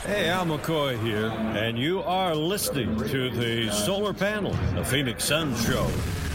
Hey, Al McCoy here, and you are listening to the Solar Panel, the Phoenix Suns Show.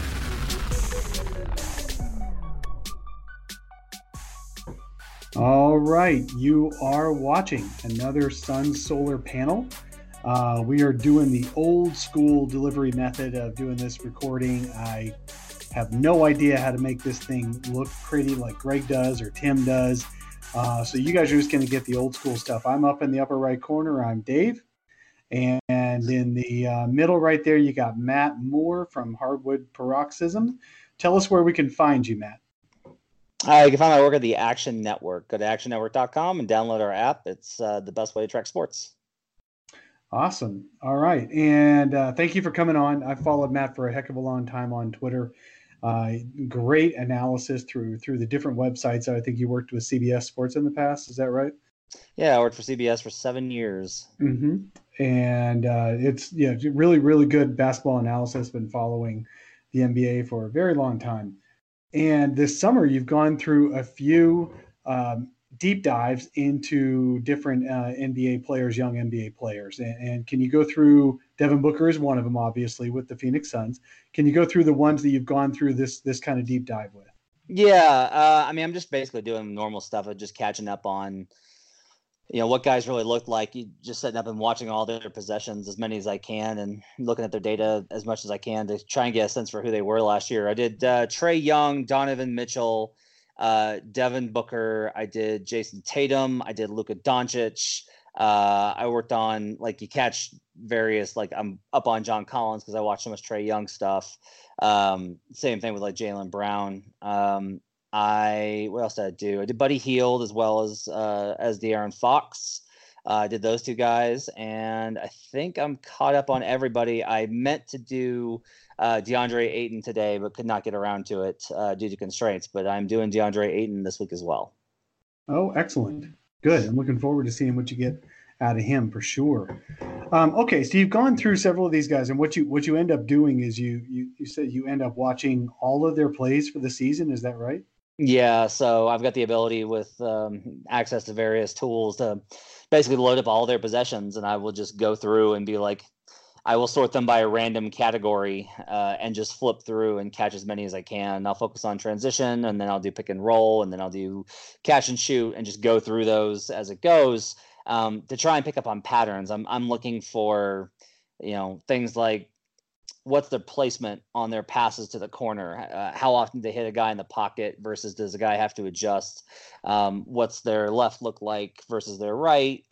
All right, you are watching another Suns Solar Panel. We are doing the old school delivery method of doing this recording. I have no idea how to make this thing look pretty like Greg does or Tim does. So you guys are just going to get the old school stuff. I'm up in the upper right corner. I'm Dave. And in the middle right there, you got Matt Moore from Hardwood Paroxysm. Tell us where we can find you, Matt. You can find my work at the Action Network. Go to actionnetwork.com and download our app. It's the best way to track sports. Awesome. All right. And thank you for coming on. I've followed Matt for a heck of a long time on Twitter. Great analysis through the different websites. I think you worked with CBS Sports in the past. Is that right? Yeah, I worked for CBS for 7 years. Mm-hmm. And it's really, really good basketball analysis. Been following the NBA for a very long time. And this summer, you've gone through a few deep dives into different NBA players, young NBA players. And can you go through, Devin Booker is one of them, obviously, with the Phoenix Suns. Can you go through the ones that you've gone through this kind of deep dive with? Yeah, I'm just basically doing normal stuff of just catching up on, what guys really look like. You just sitting up and watching all their possessions, as many as I can, and looking at their data as much as I can to try and get a sense for who they were last year. I did Trae Young, Donovan Mitchell, Devin Booker. I did Jason Tatum. I did Luka Doncic. I worked on, you catch various, I'm up on John Collins because I watch so much Trae Young stuff. Same thing with Jaylen Brown. What else did I do? I did Buddy Hield as well as De'Aaron Fox. I did those two guys, and I think I'm caught up on everybody. I meant to do DeAndre Ayton today, but could not get around to it due to constraints. But I'm doing DeAndre Ayton this week as well. Oh, excellent. Good. I'm looking forward to seeing what you get out of him for sure. Okay, so you've gone through several of these guys, and what you end up doing is you said you end up watching all of their plays for the season. Is that right? Yeah, so I've got the ability with access to various tools to basically load up all their possessions, and I will just go through and be I will sort them by a random category and just flip through and catch as many as I can. I'll focus on transition, and then I'll do pick and roll, and then I'll do catch and shoot, and just go through those as it goes to try and pick up on patterns. I'm looking for things like, what's their placement on their passes to the corner? How often do they hit a guy in the pocket versus does the guy have to adjust? What's their left look like versus their right?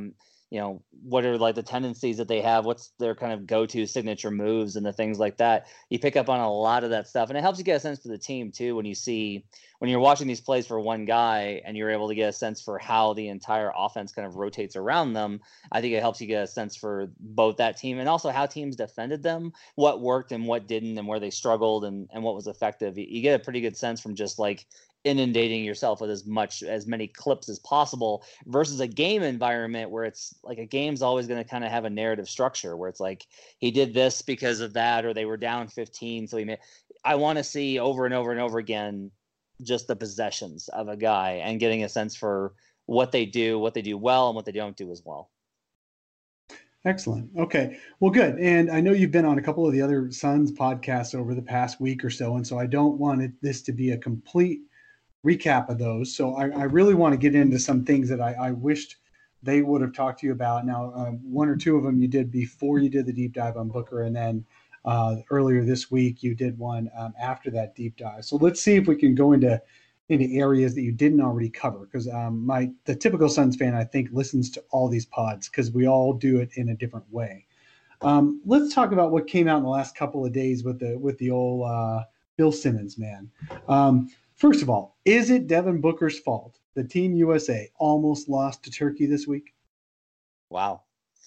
What are the tendencies that they have? What's their kind of go-to signature moves and the things like that? You pick up on a lot of that stuff, and it helps you get a sense for the team too when you're watching these plays for one guy and you're able to get a sense for how the entire offense kind of rotates around them. I think it helps you get a sense for both that team and also how teams defended them, what worked and what didn't, and where they struggled and what was effective. You get a pretty good sense from just inundating yourself with as many clips as possible versus a game environment where it's a game's always going to kind of have a narrative structure where it's he did this because of that, or they were down 15. So I want to see over and over and over again just the possessions of a guy and getting a sense for what they do well and what they don't do as well. Excellent. Okay. Well, good. And I know you've been on a couple of the other Suns podcasts over the past week or so, and so I don't want this to be a complete recap of those. So I really want to get into some things that I wished they would have talked to you about. Now, one or two of them you did before you did the deep dive on Booker, and then earlier this week you did one after that deep dive. So let's see if we can go into areas that you didn't already cover, because the typical Suns fan, I think, listens to all these pods because we all do it in a different way. Let's talk about what came out in the last couple of days with the old Bill Simmons, man. First of all, is it Devin Booker's fault that Team USA almost lost to Turkey this week? Wow.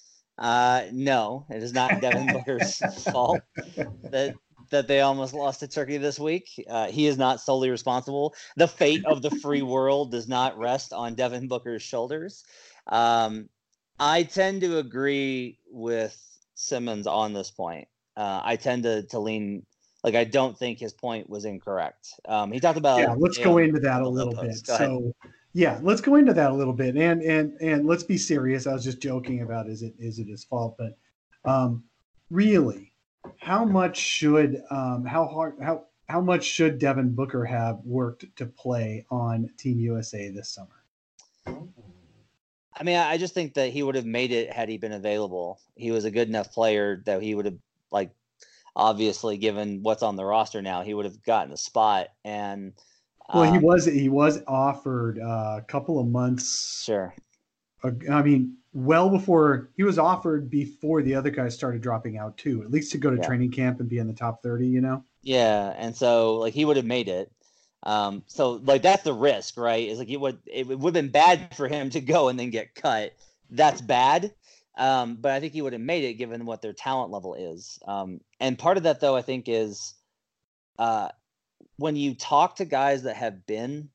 No, it is not Devin Booker's fault that they almost lost to Turkey this week. He is not solely responsible. The fate of the free world does not rest on Devin Booker's shoulders. I tend to agree with Simmons on this point. I tend to lean I don't think his point was incorrect. He talked about let's go into that a little bit. So Yeah, let's go into that a little bit, and let's be serious. I was just joking about is it his fault, but really, how much should how much should Devin Booker have worked to play on Team USA this summer? I mean, I just think that he would have made it had he been available. He was a good enough player that he would have, like, obviously, given what's on the roster now, he would have gotten a spot. And well, he was offered a couple of months. Sure. I mean, well before he was offered before the other guys started dropping out too, at least to go to training camp and be in the top 30, you know? Yeah. And so like he would have made it. So like that's the risk, right? Is like it would have been bad for him to go and then get cut. That's bad. But I think he would have made it given what their talent level is. And part of that though, I think is when you talk to guys that have been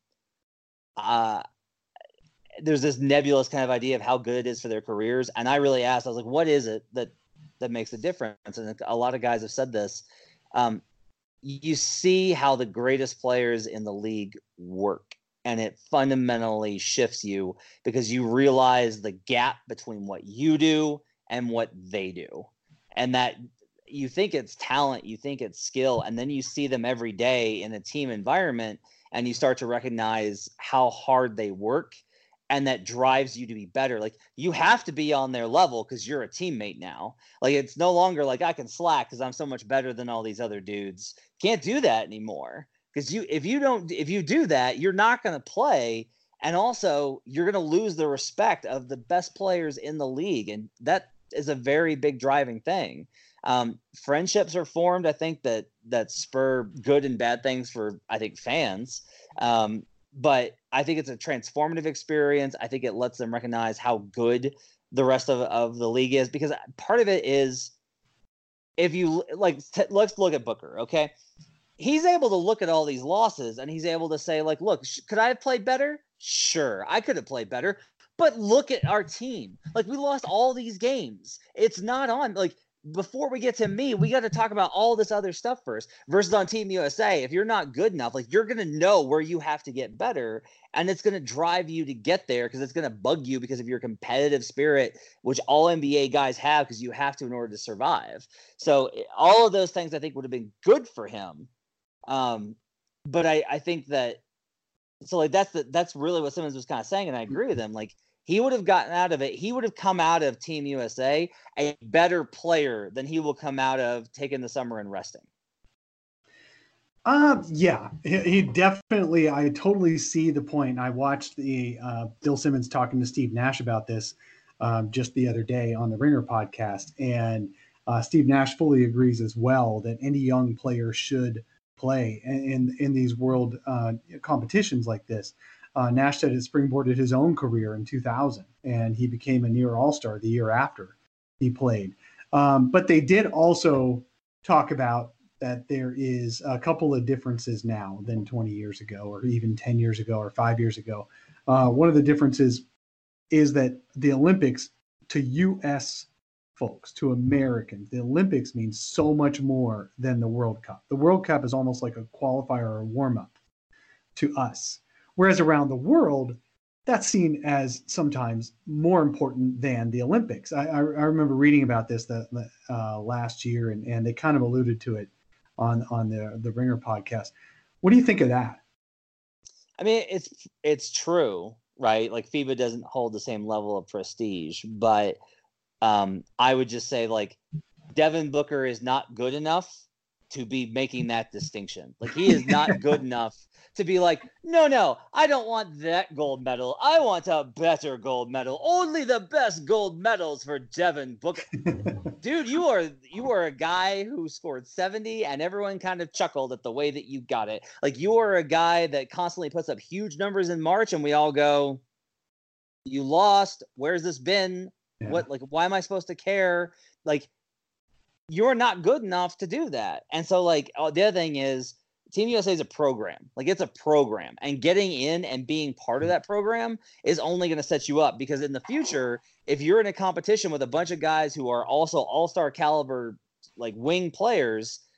there's this nebulous kind of idea of how good it is for their careers. And I really asked, I was like, what is it that makes a difference? And a lot of guys have said this. You see how the greatest players in the league work, and it fundamentally shifts you because you realize the gap between what you do and what they do. And that you think it's talent, you think it's skill, and then you see them every day in a team environment and you start to recognize how hard they work. And that drives you to be better. Like you have to be on their level because you're a teammate now. Like it's no longer like I can slack because I'm so much better than all these other dudes. Can't do that anymore. Because if you do that, you're not going to play. And also you're going to lose the respect of the best players in the league. And that is a very big driving thing. Friendships are formed, I think, that spur good and bad things for, I think, fans. But I think it's a transformative experience. I think it lets them recognize how good the rest of the league is, because part of it is if you let's look at Booker. Okay. He's able to look at all these losses and he's able to say like, look, could I have played better? Sure. I could have played better, but look at our team. Like we lost all these games. It's not on like, before we get to me, we got to talk about all this other stuff first. Versus on Team USA, if you're not good enough, like you're going to know where you have to get better, and it's going to drive you to get there because it's going to bug you because of your competitive spirit, which all NBA guys have because you have to in order to survive. So all of those things I think would have been good for him. But I think that so like that's really what Simmons was kind of saying, and I agree with him. Like he would have gotten out of it. He would have come out of Team USA a better player than he will come out of taking the summer and resting. Yeah, he definitely, I totally see the point. I watched the Bill Simmons talking to Steve Nash about this just the other day on the Ringer podcast. And Steve Nash fully agrees as well that any young player should play in these world competitions like this. Nash said it springboarded his own career in 2000, and he became a near all-star the year after he played. But they did also talk about that there is a couple of differences now than 20 years ago, or even 10 years ago, or 5 years ago. One of the differences is that the Olympics, to U.S. folks, to Americans, the Olympics means so much more than the World Cup. The World Cup is almost like a qualifier or a warm-up to us. Whereas around the world, that's seen as sometimes more important than the Olympics. I remember reading about this last year, and they kind of alluded to it on the Ringer podcast. What do you think of that? I mean, it's true, right? Like FIBA doesn't hold the same level of prestige, but I would just say like Devin Booker is not good enough to be making that distinction. Like he is not good enough to be like, no, I don't want that gold medal. I want a better gold medal. Only the best gold medals for Devin Booker. Dude, you are a guy who scored 70 and everyone kind of chuckled at the way that you got it. Like you are a guy that constantly puts up huge numbers in March and we all go, you lost. Where's this been? Yeah. What, like, why am I supposed to care? Like, you're not good enough to do that. And so like the other thing is Team USA is a program. Like it's a program, and getting in and being part of that program is only going to set you up, because in the future, if you're in a competition with a bunch of guys who are also all-star caliber, like wing players,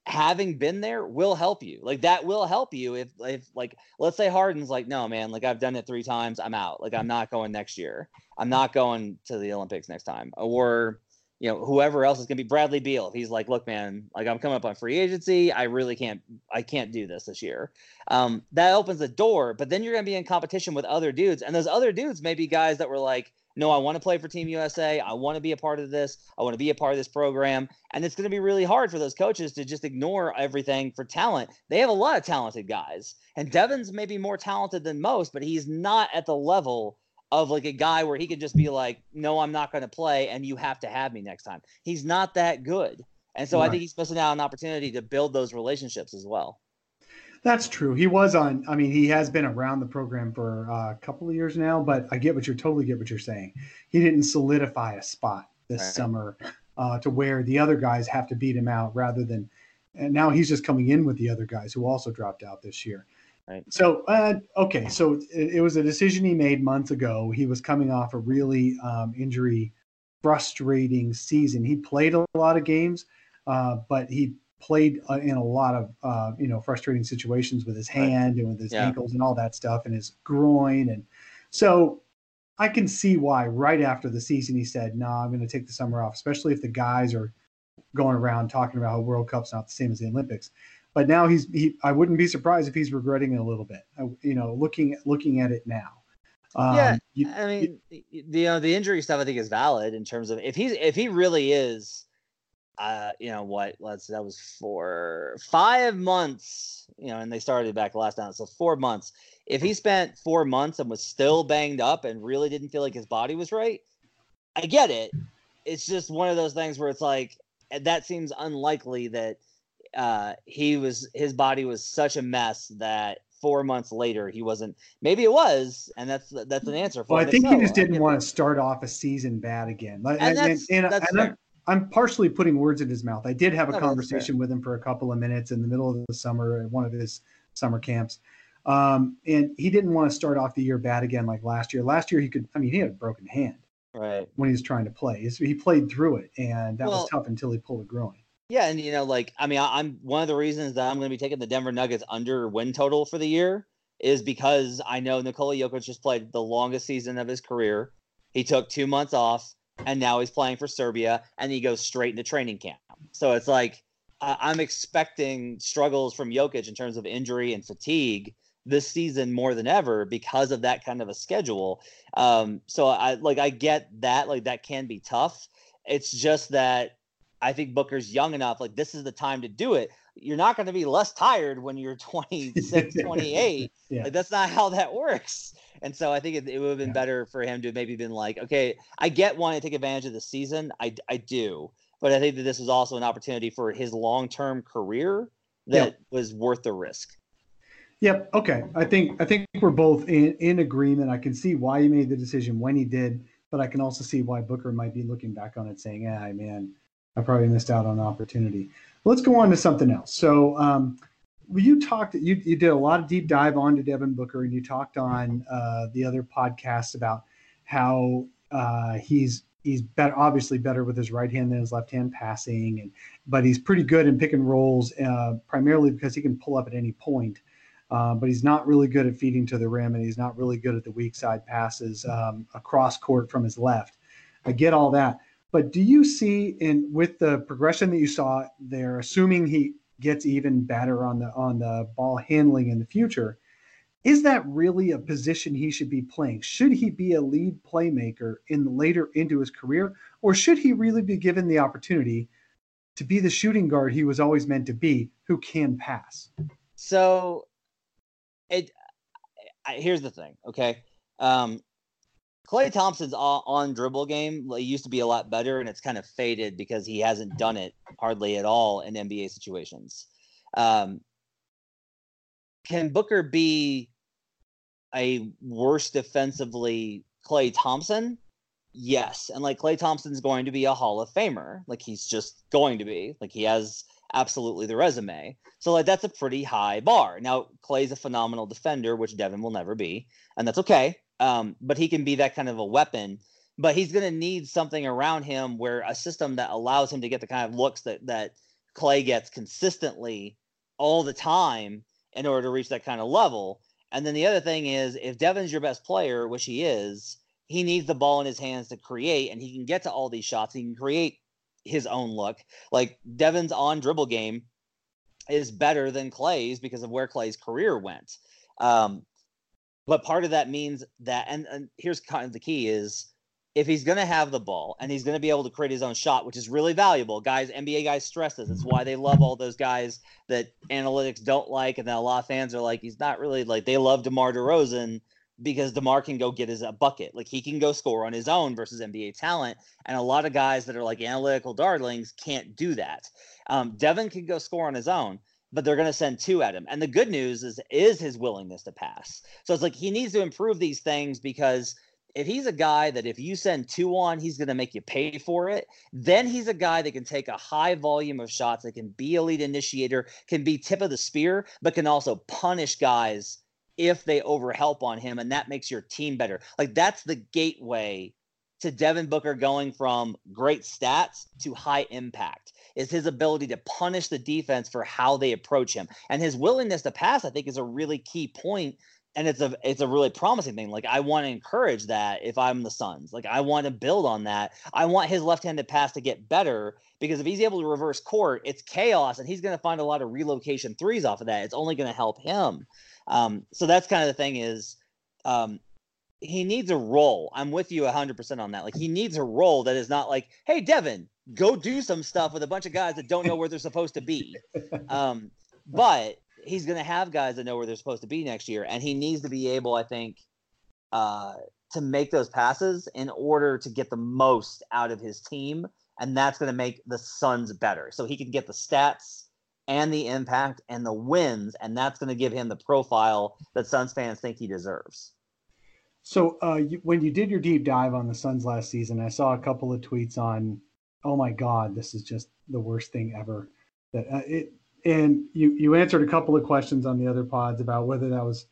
having been there will help you. Like that will help you if like, let's say Harden's like, no, man, like I've done it 3 times. I'm out. Like I'm not going next year. I'm not going to the Olympics next time. Or, you know, whoever else is going to be Bradley Beal. If he's like, look, man, like I'm coming up on free agency. I can't do this year. That opens the door, but then you're going to be in competition with other dudes. And those other dudes may be guys that were like, no, I want to play for Team USA. I want to be a part of this. I want to be a part of this program. And it's going to be really hard for those coaches to just ignore everything for talent. They have a lot of talented guys. And Devin's maybe more talented than most, but he's not at the level of like a guy where he could just be like, no, I'm not going to play and you have to have me next time. He's not that good. And so I think he's missing out on an opportunity to build those relationships as well. That's true. He has been around the program for a couple of years now, but I totally get what you're saying. He didn't solidify a spot this summer to where the other guys have to beat him out and now he's just coming in with the other guys who also dropped out this year. Right. So, so it was a decision he made months ago. He was coming off a really injury frustrating season. He played a lot of games, but he played in a lot of frustrating situations with his hand and with his ankles and all that stuff and his groin. And so I can see why right after the season he said, no, I'm going to take the summer off, especially if the guys are going around talking about how World Cup's not the same as the Olympics. But now I wouldn't be surprised if he's regretting it a little bit, looking at it now. The injury stuff I think is valid in terms of if he really is, that was for 5 months, and they started back last time. So 4 months. If he spent 4 months and was still banged up and really didn't feel like his body was right, I get it. It's just one of those things where it's like, that seems unlikely that his body was such a mess that 4 months later he wasn't. Maybe it was, and that's an answer for. Well, I think he just didn't want to start off a season bad again. And I'm partially putting words in his mouth. I did have a conversation with him for a couple of minutes in the middle of the summer at one of his summer camps, and he didn't want to start off the year bad again like last year. Last year he had a broken hand when he was trying to play. So he played through it, and that was tough until he pulled a groin. Yeah, and I'm one of the reasons that I'm going to be taking the Denver Nuggets under win total for the year is because I know Nikola Jokic just played the longest season of his career. He took 2 months off, and now he's playing for Serbia, and he goes straight into training camp. So it's like I'm expecting struggles from Jokic in terms of injury and fatigue this season more than ever because of that kind of a schedule. So I get that, like that can be tough. It's just that I think Booker's young enough. Like this is the time to do it. You're not going to be less tired when you're 26, 28. Like that's not how that works. And so I think it would have been better for him to maybe been like, okay, I get wanting to take advantage of the season. I do. But I think that this was also an opportunity for his long-term career that was worth the risk. Yep. Okay. I think we're both in agreement. I can see why he made the decision when he did, but I can also see why Booker might be looking back on it saying, man, I probably missed out on an opportunity. Let's go on to something else. So you did a lot of deep dive onto Devin Booker, and you talked on the other podcasts about how he's better, obviously better with his right hand than his left hand passing, but he's pretty good in pick and rolls, primarily because he can pull up at any point. But he's not really good at feeding to the rim, and he's not really good at the weak side passes across court from his left. I get all that. But do you see, with the progression that you saw there, assuming he gets even better on the ball handling in the future, is that really a position he should be playing? Should he be a lead playmaker later into his career, or should he really be given the opportunity to be the shooting guard he was always meant to be, who can pass? So, here's the thing, okay? Klay Thompson's on dribble game used to be a lot better, and it's kind of faded because he hasn't done it hardly at all in NBA situations. Can Booker be a worse defensively Klay Thompson? Yes. And Klay Thompson's going to be a Hall of Famer. He's just going to be. He has absolutely the resume. So that's a pretty high bar. Now, Klay's a phenomenal defender, which Devin will never be, and that's okay. But he can be that kind of a weapon, but he's going to need something around him where a system that allows him to get the kind of looks that Clay gets consistently all the time in order to reach that kind of level. And then the other thing is, if Devin's your best player, which he is, he needs the ball in his hands to create, and he can get to all these shots. He can create his own look. Like, Devin's on dribble game is better than Clay's because of where Clay's career went. But part of that means that, and here's kind of the key is, if he's going to have the ball and he's going to be able to create his own shot, which is really valuable, guys, NBA guys stress this. It's why they love all those guys that analytics don't like. And then a lot of fans are like, he's not really like, they love DeMar DeRozan because DeMar can go get his bucket. Like, he can go score on his own versus NBA talent. And a lot of guys that are like analytical darlings can't do that. Devin can go score on his own, but they're going to send two at him. And the good news is his willingness to pass. So it's like, he needs to improve these things, because if he's a guy that if you send two on, he's going to make you pay for it, then he's a guy that can take a high volume of shots, that can be a lead initiator, can be tip of the spear, but can also punish guys if they overhelp on him, and that makes your team better. Like, that's the gateway to Devin Booker going from great stats to high impact, is his ability to punish the defense for how they approach him. And his willingness to pass, I think, is a really key point. And it's a really promising thing. Like, I want to encourage that if I'm the Suns. Like, I want to build on that. I want his left-handed pass to get better, because if he's able to reverse court, it's chaos, and he's going to find a lot of relocation threes off of that. It's only going to help him. So that's kind of the thing is, he needs a role. I'm with you 100% on that. Like, he needs a role that is not like, hey, Devin, go do some stuff with a bunch of guys that don't know where they're supposed to be. But he's going to have guys that know where they're supposed to be next year. And he needs to be able, I think, to make those passes in order to get the most out of his team. And that's going to make the Suns better. So he can get the stats and the impact and the wins. And that's going to give him the profile that Suns fans think he deserves. So when you did your deep dive on the Suns last season, I saw a couple of tweets on, oh my God, this is just the worst thing ever. And you answered a couple of questions on the other pods about whether that was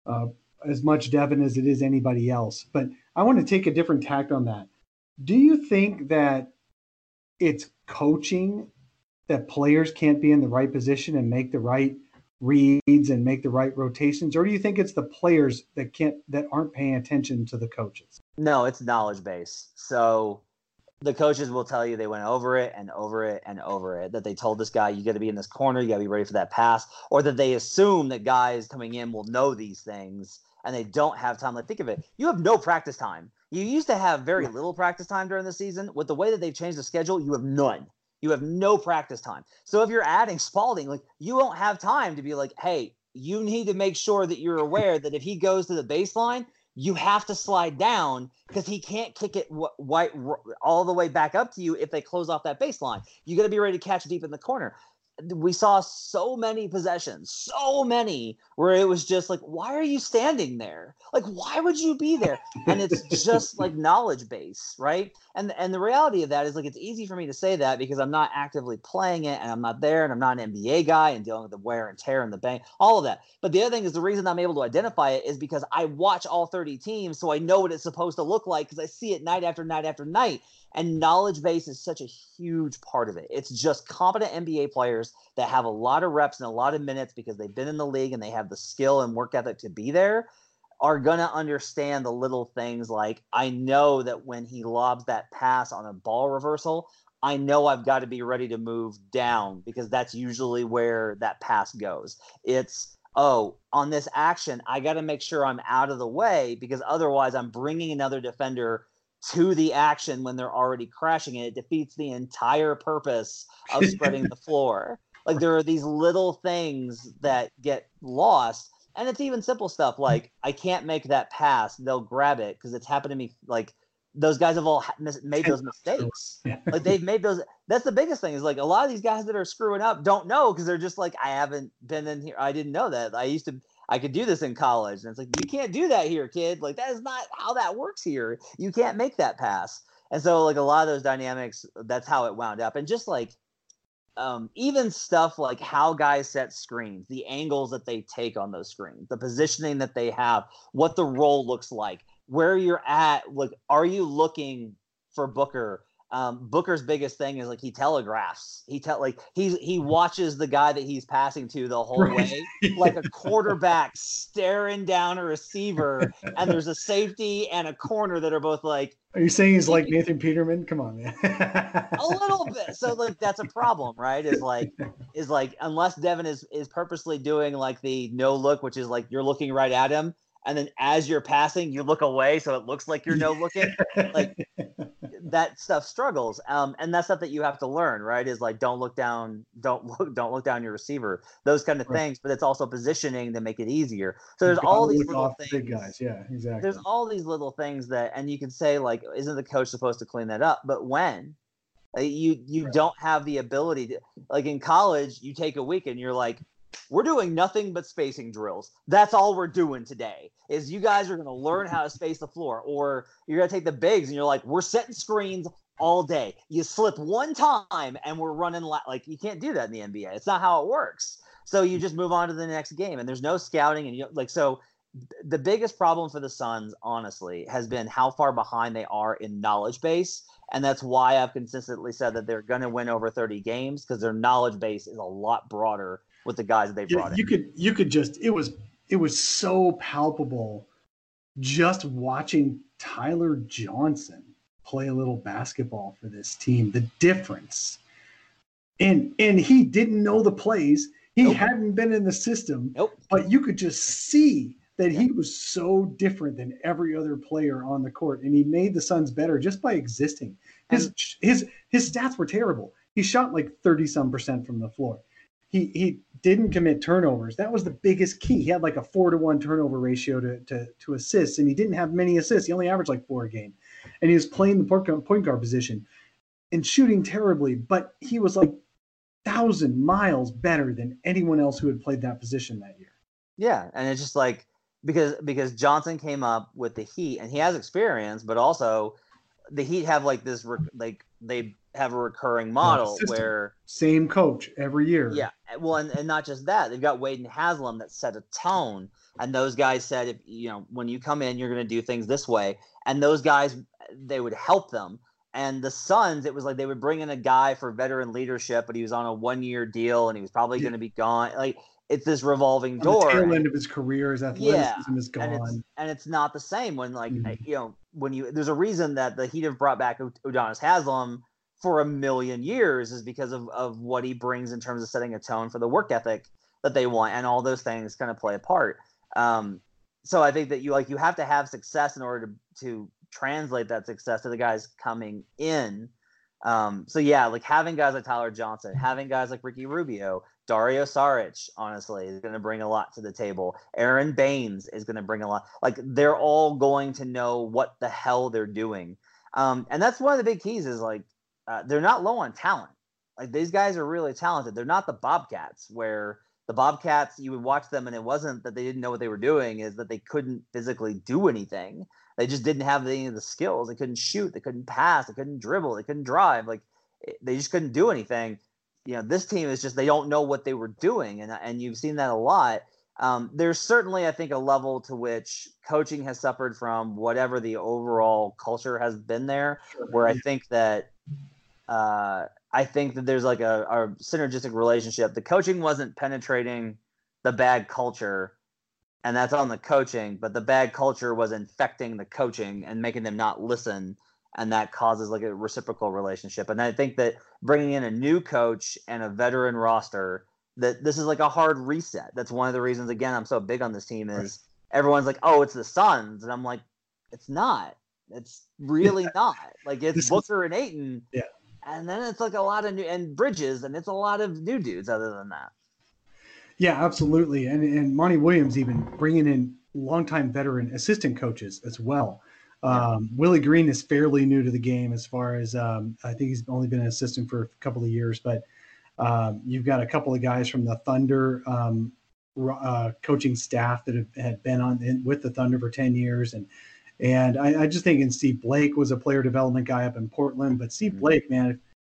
as much Devin as it is anybody else. But I want to take a different tact on that. Do you think that it's coaching, that players can't be in the right position and make the right reads and make the right rotations? Or do you think it's the players that aren't paying attention to the coaches? No, it's knowledge base. So the coaches will tell you they went over it and over it and over it, that they told this guy, you got to be in this corner, you got to be ready for that pass, or that they assume that guys coming in will know these things and they don't have time. Like, think of it. You have no practice time. You used to have very little practice time during the season. With the way that they've changed the schedule, you have none. You have no practice time. So if you're adding Spalding, like, you won't have time to be like, hey, you need to make sure that you're aware that if he goes to the baseline, you have to slide down, because he can't kick it all the way back up to you if they close off that baseline. You got to be ready to catch deep in the corner. We saw so many possessions, where it was just like, why are you standing there? Like, why would you be there? And it's just like knowledge base, right? And the reality of that is, like, it's easy for me to say that because I'm not actively playing it, and I'm not there, and I'm not an NBA guy and dealing with the wear and tear and the bang, all of that. But the other thing is, the reason I'm able to identify it is because I watch all 30 teams, so I know what it's supposed to look like, because I see it night after night after night. And knowledge base is such a huge part of it. It's just competent NBA players that have a lot of reps and a lot of minutes because they've been in the league and they have the skill and work ethic to be there, are going to understand the little things. Like, I know that when he lobs that pass on a ball reversal, I know I've got to be ready to move down, because that's usually where that pass goes. It's, oh, on this action, I got to make sure I'm out of the way, because otherwise I'm bringing another defender to the action when they're already crashing, and it defeats the entire purpose of spreading the floor. Like, there are these little things that get lost, and it's even simple stuff like, I can't make that pass, they'll grab it, because it's happened to me. Like, those guys have all made those mistakes. Like, they've made those. That's the biggest thing, is like, a lot of these guys that are screwing up don't know, because they're just like, I haven't been in here, I didn't know that. I could do this in college. And it's like, you can't do that here, kid. Like, that is not how that works here. You can't make that pass. And so, like, a lot of those dynamics, that's how it wound up. And just like, even stuff like how guys set screens, the angles that they take on those screens, the positioning that they have, what the role looks like, where you're at. Like, are you looking for Booker Booker's biggest thing is like he telegraphs. He watches the guy that he's passing to the whole way, like a quarterback staring down a receiver, and there's a safety and a corner that are both like. Are you saying he's like Nathan Peterman? Come on, man. A little bit. So like that's a problem, right? Is like unless Devin is purposely doing like the no look, which is like you're looking right at him, and then as you're passing, you look away, so it looks like you're no looking. Like that stuff struggles, and that's stuff that you have to learn, right? Is like don't look down your receiver, those kind of things. But it's also positioning to make it easier. So there's all these little things. Big guys, yeah, exactly. There's all these little things that, and you can say like, isn't the coach supposed to clean that up? But when you don't have the ability to, like in college, you take a week and you're like, we're doing nothing but spacing drills. That's all we're doing today is you guys are going to learn how to space the floor, or you're going to take the bigs and you're like, we're setting screens all day. You slip one time and we're running like you can't do that in the NBA. It's not how it works. So you just move on to the next game and there's no scouting. And so the biggest problem for the Suns, honestly, has been how far behind they are in knowledge base. And that's why I've consistently said that they're going to win over 30 games because their knowledge base is a lot broader with the guys that they brought in. You could just, it was so palpable just watching Tyler Johnson play a little basketball for this team, the difference. And he didn't know the plays. He hadn't been in the system, but you could just see that he was so different than every other player on the court. And he made the Suns better just by existing. His stats were terrible. He shot like 30-some% from the floor. He didn't commit turnovers. That was the biggest key. He had like a 4-to-1 turnover ratio to assists, and he didn't have many assists. He only averaged like 4 a game. And he was playing the point guard position and shooting terribly, but he was like 1,000 miles better than anyone else who had played that position that year. Yeah, and it's just like because Johnson came up with the Heat, and he has experience, but also the Heat have like this they have a recurring model where same coach every year. Yeah, well, and not just that, they've got Wade and Haslam that set a tone, and those guys said, if when you come in, you're going to do things this way, and those guys, they would help them. And the Suns, it was like they would bring in a guy for veteran leadership, but he was on a 1-year deal, and he was probably going to be gone. Like it's this revolving door. The tail end of his career, his athleticism is gone, and it's not the same when there's a reason that the Heat have brought back Udonis Haslam for 1 million years is because of what he brings in terms of setting a tone for the work ethic that they want, and all those things kind of play a part. So I think that you have to have success in order to translate that success to the guys coming in. So yeah, like having guys like Tyler Johnson, having guys like Ricky Rubio, Dario Saric, honestly, is going to bring a lot to the table. Aaron Baines is going to bring a lot. Like they're all going to know what the hell they're doing. And that's one of the big keys is like, they're not low on talent. Like these guys are really talented. They're not the Bobcats where the Bobcats, you would watch them and it wasn't that they didn't know what they were doing, is that they couldn't physically do anything. They just didn't have any of the skills. They couldn't shoot. They couldn't pass. They couldn't dribble. They couldn't drive. Like they just couldn't do anything. This team is just, they don't know what they were doing. And you've seen that a lot. There's certainly, I think, a level to which coaching has suffered from whatever the overall culture has been there, where I think that there's like a synergistic relationship. The coaching wasn't penetrating the bad culture, and that's on the coaching, but the bad culture was infecting the coaching and making them not listen, and that causes like a reciprocal relationship. And I think that bringing in a new coach and a veteran roster, that this is like a hard reset. That's one of the reasons, again, I'm so big on this team is everyone's like, oh, it's the Suns. And I'm like, it's not. It's really not. Like it's Booker and Ayton. Yeah. And then it's like a lot of new and Bridges, and it's a lot of new dudes other than that. Yeah, absolutely. And Monty Williams even bringing in longtime veteran assistant coaches as well. Willie Green is fairly new to the game as far as I think he's only been an assistant for a couple of years, but you've got a couple of guys from the Thunder coaching staff that had been with the Thunder for 10 years. And I just think Steve Blake was a player development guy up in Portland, but Steve Blake, man,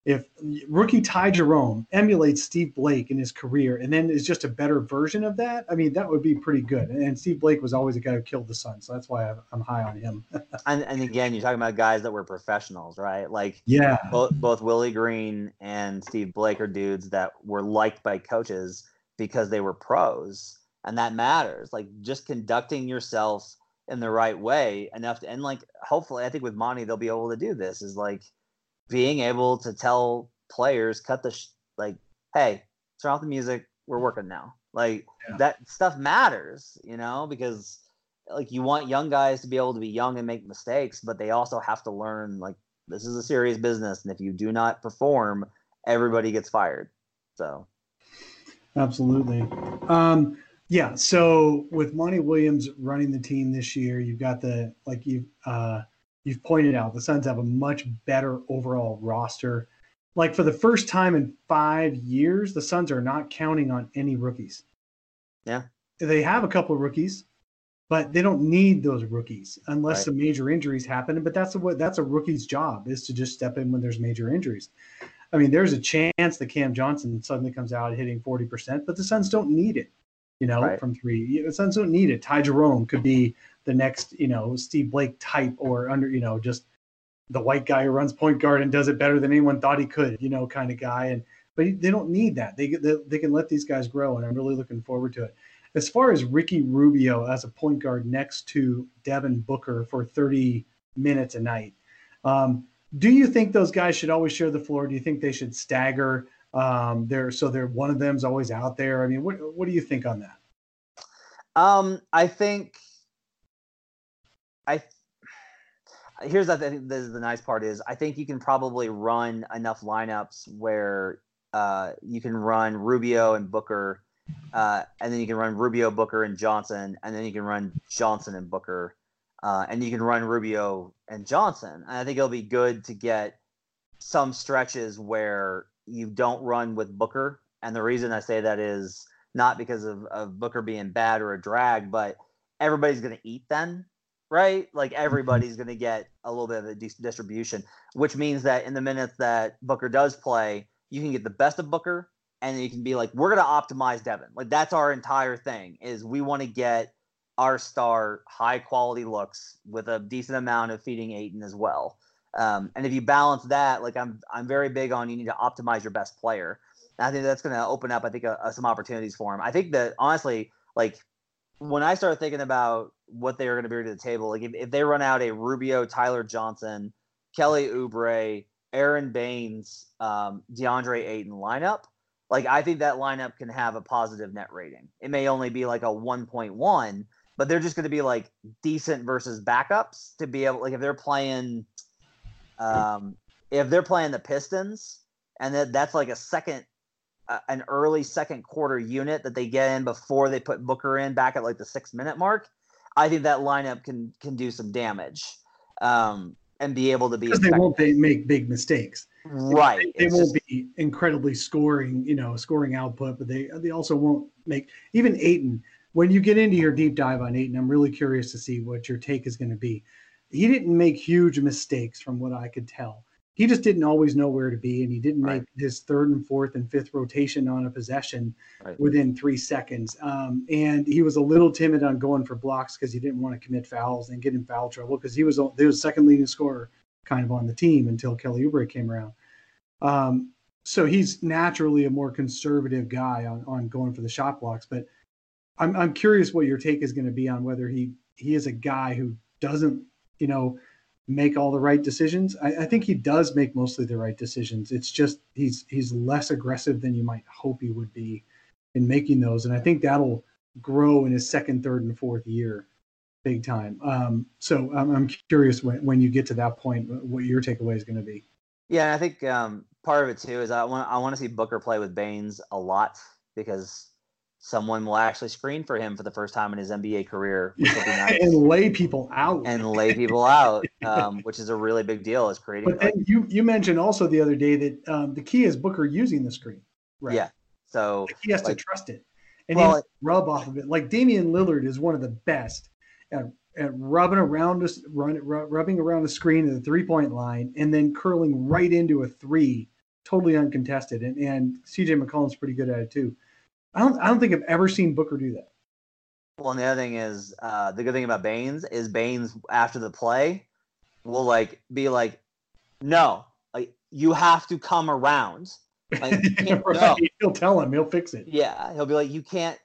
if rookie Ty Jerome emulates Steve Blake in his career and then is just a better version of that, I mean, that would be pretty good. And Steve Blake was always a guy who killed the Suns, so that's why I'm high on him. And again, you're talking about guys that were professionals, right? Like Yeah, both Willie Green and Steve Blake are dudes that were liked by coaches because they were pros, and that matters. Like just conducting yourself in the right way enough to, and like hopefully, I think with Monty they'll be able to do this. Is like being able to tell players, cut the like, hey, turn off the music. We're working now. Like that stuff matters, you know, because like you want young guys to be able to be young and make mistakes, but they also have to learn like this is a serious business, and if you do not perform, everybody gets fired. So, absolutely. Yeah. So with Monty Williams running the team this year, you've got the like you've pointed out the Suns have a much better overall roster. Like for the first time in 5 years, the Suns are not counting on any rookies. Yeah, they have a couple of rookies, but they don't need those rookies unless some major injuries happen. But that's a rookie's job, is to just step in when there's major injuries. I mean, there's a chance that Cam Johnson suddenly comes out hitting 40%, but the Suns don't need it, you know, from three. The Suns don't need it. Ty Jerome could be the next, you know, Steve Blake type, or under, you know, just the white guy who runs point guard and does it better than anyone thought he could, you know, kind of guy. But they don't need that. They can let these guys grow, and I'm really looking forward to it. As far as Ricky Rubio as a point guard next to Devin Booker for 30 minutes a night, do you think those guys should always share the floor? Do you think they should stagger? They're one of them's always out there. I mean, what do you think on that? I think here's I think this is the nice part is I think you can probably run enough lineups where you can run Rubio and Booker. And then you can run Rubio, Booker, and Johnson, and then you can run Johnson and Booker, and you can run Rubio and Johnson. And I think it'll be good to get some stretches where you don't run with Booker. And the reason I say that is not because of Booker being bad or a drag, but everybody's going to eat then, right? Like everybody's going to get a little bit of a distribution, which means that in the minutes that Booker does play, you can get the best of Booker. And you can be like, we're going to optimize Devin. Like that's our entire thing is we want to get our star high quality looks with a decent amount of feeding Ayton as well. And if you balance that, like I'm very big on, you need to optimize your best player. And I think that's going to open up, I think, some opportunities for him. I think that honestly, like when I started thinking about what they were going to bring to the table, like if they run out a Rubio, Tyler Johnson, Kelly Oubre, Aaron Baines, DeAndre Ayton lineup, like I think that lineup can have a positive net rating. It may only be like a 1.1, but they're just going to be like decent versus backups to be able, like if they're playing the Pistons and that's like an early second quarter unit that they get in before they put Booker in back at like the 6 minute mark, I think that lineup can do some damage and be able to be because they won't make big mistakes. Right. They won't be incredibly scoring output, but they also won't make even Ayton. When you get into your deep dive on Ayton, I'm really curious to see what your take is going to be. He didn't make huge mistakes from what I could tell. He just didn't always know where to be, and he didn't make his third and fourth and fifth rotation on a possession within 3 seconds. And he was a little timid on going for blocks because he didn't want to commit fouls and get in foul trouble because he was the second leading scorer kind of on the team until Kelly Oubre came around. So he's naturally a more conservative guy on going for the shot blocks. But I'm curious what your take is going to be on whether he is a guy who doesn't, make all the right decisions. I think he does make mostly the right decisions. It's just he's less aggressive than you might hope he would be in making those. And I think that'll grow in his second, third, and fourth year big time. So I'm curious when you get to that point, what your takeaway is going to be. Yeah, I think part of it too is I want to see Booker play with Baines a lot because someone will actually screen for him for the first time in his NBA career, which will be nice. And lay people out, which is a really big deal. Is creating. But then you mentioned also the other day that the key is Booker using the screen, right? Yeah, so he has to trust it, and he has to rub off of it. Like Damian Lillard is one of the best at rubbing around a screen at the 3-point line, and then curling right into a three totally uncontested, and CJ McCollum's pretty good at it too. I don't think I've ever seen Booker do that. Well, and the other thing is, the good thing about Baines is Baines after the play will like be like, no, like you have to come around. Like, right. No. He'll tell him, he'll fix it. Yeah, he'll be like, you can't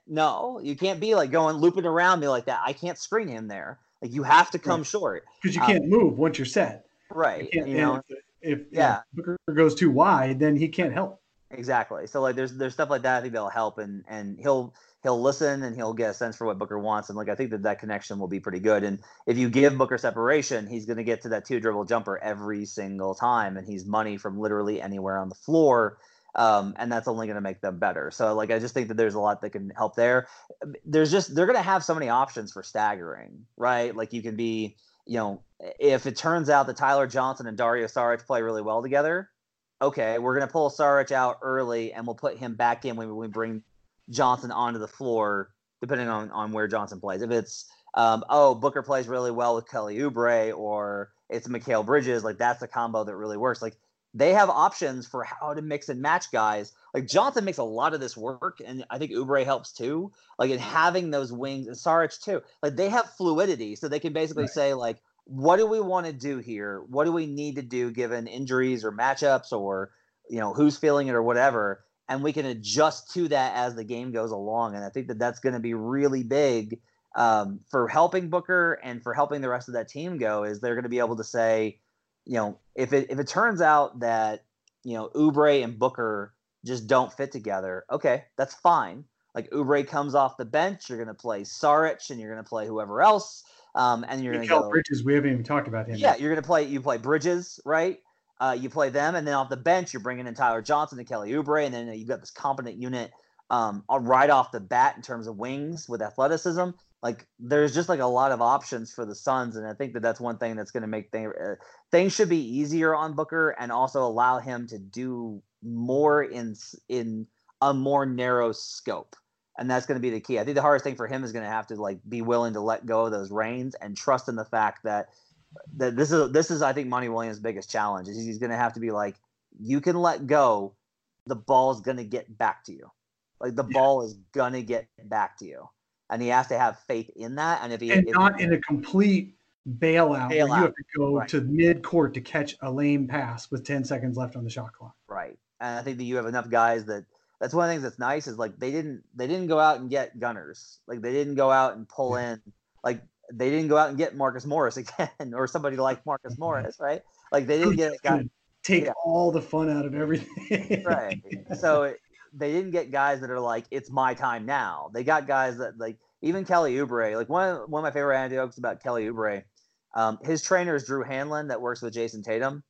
be like going looping around me like that. I can't screen him there. Like you have to come short because you can't move once you're set. Right. You know, if Booker goes too wide, then he can't help. Exactly. So like there's stuff like that I think that'll help, and he'll listen and he'll get a sense for what Booker wants, and like I think that connection will be pretty good. And if you give Booker separation, he's going to get to that 2-dribble jumper every single time, and he's money from literally anywhere on the floor. And that's only going to make them better. So like I just think that there's a lot that can help there. They're going to have so many options for staggering, right? Like you can be, you know, if it turns out that Tyler Johnson and Dario Saric play really well together, okay, we're going to pull Saric out early and we'll put him back in when we bring Johnson onto the floor, depending on where Johnson plays. If it's, Booker plays really well with Kelly Oubre, or it's Mikal Bridges, like that's the combo that really works. Like they have options for how to mix and match guys. Like Johnson makes a lot of this work, and I think Oubre helps too. Like in having those wings, and Saric too. Like they have fluidity, so they can basically say like, what do we want to do here? What do we need to do given injuries or matchups or, you know, who's feeling it or whatever? And we can adjust to that as the game goes along. And I think that that's going to be really big for helping Booker and for helping the rest of that team go, is they're going to be able to say, you know, if it turns out that, you know, Oubre and Booker just don't fit together, okay, that's fine. Like Oubre comes off the bench, you're going to play Saric and you're going to play whoever else. And you're going to go Bridges. We haven't even talked about him. Yeah, you're going to play Bridges, right? You play them, and then off the bench, you're bringing in Tyler Johnson and Kelly Oubre, and then you've got this competent unit right off the bat in terms of wings with athleticism. Like there's just like a lot of options for the Suns, and I think that that's one thing that's going to make things should be easier on Booker, and also allow him to do more in a more narrow scope. And that's going to be the key. I think the hardest thing for him is going to have to like be willing to let go of those reins and trust in the fact that this is I think Monty Williams' biggest challenge is he's going to have to be like, you can let go, the ball's going to get back to you. Like the ball is going to get back to you, and he has to have faith in that. And not in a complete bailout where you have to go to mid court to catch a lame pass with 10 seconds left on the shot clock. Right, and I think that you have enough guys that. That's one of the things that's nice is like they didn't go out and get gunners. Like they didn't go out and pull in, like they didn't go out and get Marcus Morris again or somebody like Marcus Morris, right? Like they didn't get a guy. Take all the fun out of everything. Right. So they didn't get guys that are like, it's my time now. They got guys that like even Kelly Oubre. Like one of my favorite anecdotes about Kelly Oubre, his trainer is Drew Hanlon that works with Jason Tatum,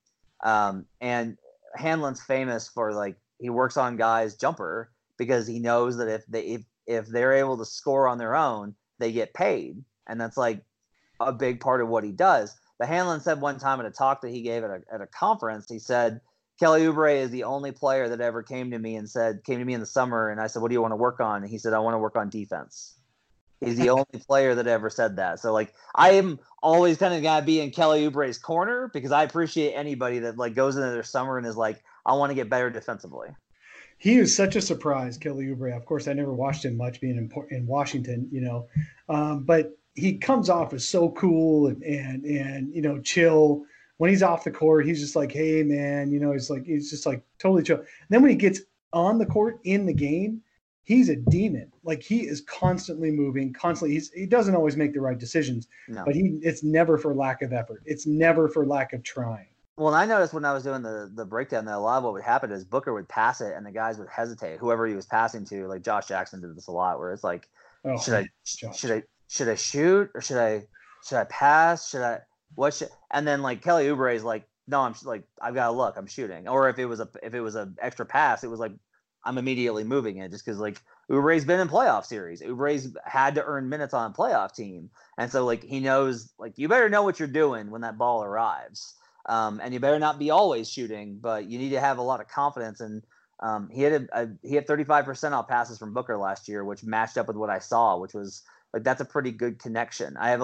and Hanlon's famous for like. He works on guys' jumper because he knows that if they're able to score on their own, they get paid, and that's like a big part of what he does. But Hanlon said one time at a talk that he gave at a conference, he said Kelly Oubre is the only player that ever came to me in the summer, and I said, "What do you want to work on?" And he said, "I want to work on defense." He's the only player that ever said that. So like I am always kind of gotta be in Kelly Oubre's corner because I appreciate anybody that like goes into their summer and is like, I want to get better defensively. He is such a surprise, Kelly Oubre. Of course, I never watched him much being in Washington, you know, but he comes off as so cool and you know, chill. When he's off the court, he's just like, hey man, you know, he's just like totally chill. And then when he gets on the court in the game, he's a demon. Like he is constantly moving, constantly. He doesn't always make the right decisions, but it's never for lack of effort. It's never for lack of trying. Well, and I noticed when I was doing the breakdown that a lot of what would happen is Booker would pass it and the guys would hesitate. Whoever he was passing to, like Josh Jackson did this a lot, where it's like, should I shoot or should I pass? And then like Kelly Oubre is like, no, I'm like, I've got to look, I'm shooting. Or if it was a extra pass, it was like, I'm immediately moving it just because like Oubre's been in playoff series. Oubre's had to earn minutes on a playoff team. And so like, he knows like, you better know what you're doing when that ball arrives. And you better not be always shooting, but you need to have a lot of confidence. And he had 35% off passes from Booker last year, which matched up with what I saw, which was like that's a pretty good connection. I have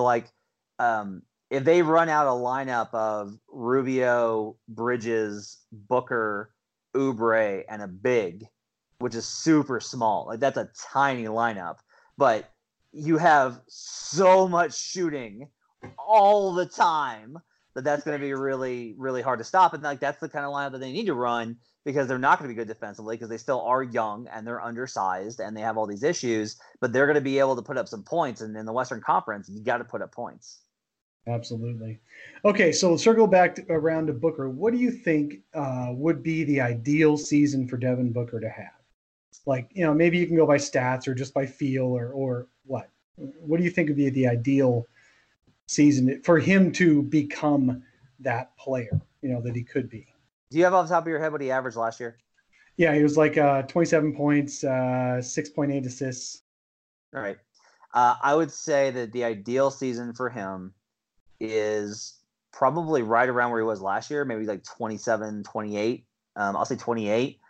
if they run out a lineup of Rubio, Bridges, Booker, Oubre, and a big, which is super small. Like that's a tiny lineup, but you have so much shooting all the time that's going to be really, really hard to stop. And like that's the kind of lineup that they need to run because they're not going to be good defensively because they still are young and they're undersized and they have all these issues, but they're going to be able to put up some points. And in the Western Conference, you got to put up points. Absolutely. Okay, so let's circle back around to Booker. What do you think would be the ideal season for Devin Booker to have? Like, maybe you can go by stats or just by feel or what? What do you think would be the ideal season for him to become that player, that he could be? Do you have off the top of your head what he averaged last year? Yeah, he was like 27 points, 6.8 assists. All right. I would say that the ideal season for him is probably right around where he was last year, maybe like 27, 28. I'll say 28.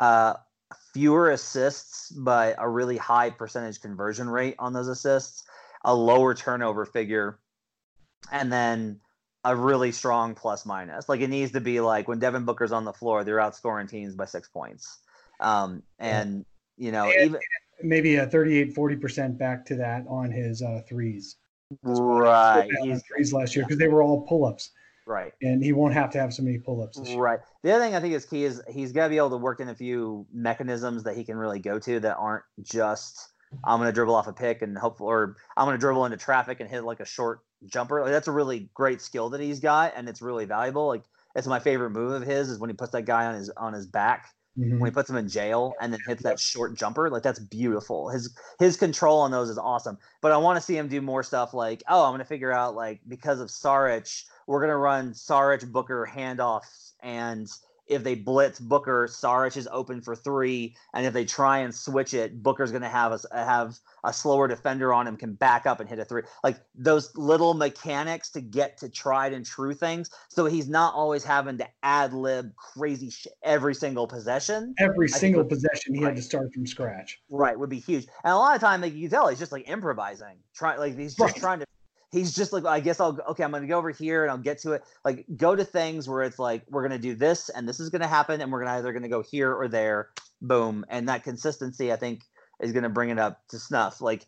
Fewer assists, but a really high percentage conversion rate on those assists, a lower turnover figure, and then a really strong plus minus. Like it needs to be like when Devin Booker's on the floor, they're outscoring teams by 6 points. And even maybe a 38-40% back to that on his threes. Right. He's threes last year because they were all pull-ups. Right. And he won't have to have so many pull-ups this year. Right. The other thing I think is key is he's got to be able to work in a few mechanisms that he can really go to that aren't just I'm going to dribble off a pick and hope, or I'm going to dribble into traffic and hit like a short jumper. Like that's a really great skill that he's got, and it's really valuable. Like it's my favorite move of his is when he puts that guy on his back, when he puts him in jail and then hits that short jumper. Like that's beautiful. His control on those is awesome. But I want to see him do more stuff like, I'm going to figure out like because of Saric, we're going to run Saric Booker handoffs, and if they blitz Booker, Saric is open for three, and if they try and switch it, Booker's going to have a slower defender on him, can back up and hit a three. Like those little mechanics to get to tried and true things, so he's not always having to ad lib crazy shit every single possession. Every single possession he had to start from scratch. Right, would be huge. And a lot of time, like you can tell, he's just like improvising, he's just trying to. He's just like, I guess I'm going to go over here and I'll get to it. Like go to things where it's like, we're going to do this and this is going to happen. And we're either going to go here or there, boom. And that consistency, I think, is going to bring it up to snuff. Like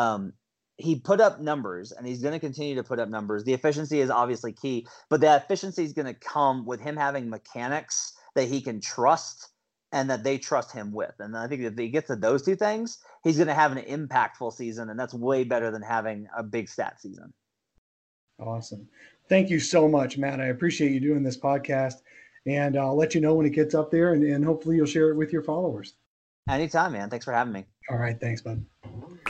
he put up numbers and he's going to continue to put up numbers. The efficiency is obviously key, but that efficiency is going to come with him having mechanics that he can trust and that they trust him with. And I think if he gets to those two things, he's going to have an impactful season, and that's way better than having a big stat season. Awesome. Thank you so much, Matt. I appreciate you doing this podcast, and I'll let you know when it gets up there, and hopefully you'll share it with your followers. Anytime, man. Thanks for having me. All right. Thanks, bud.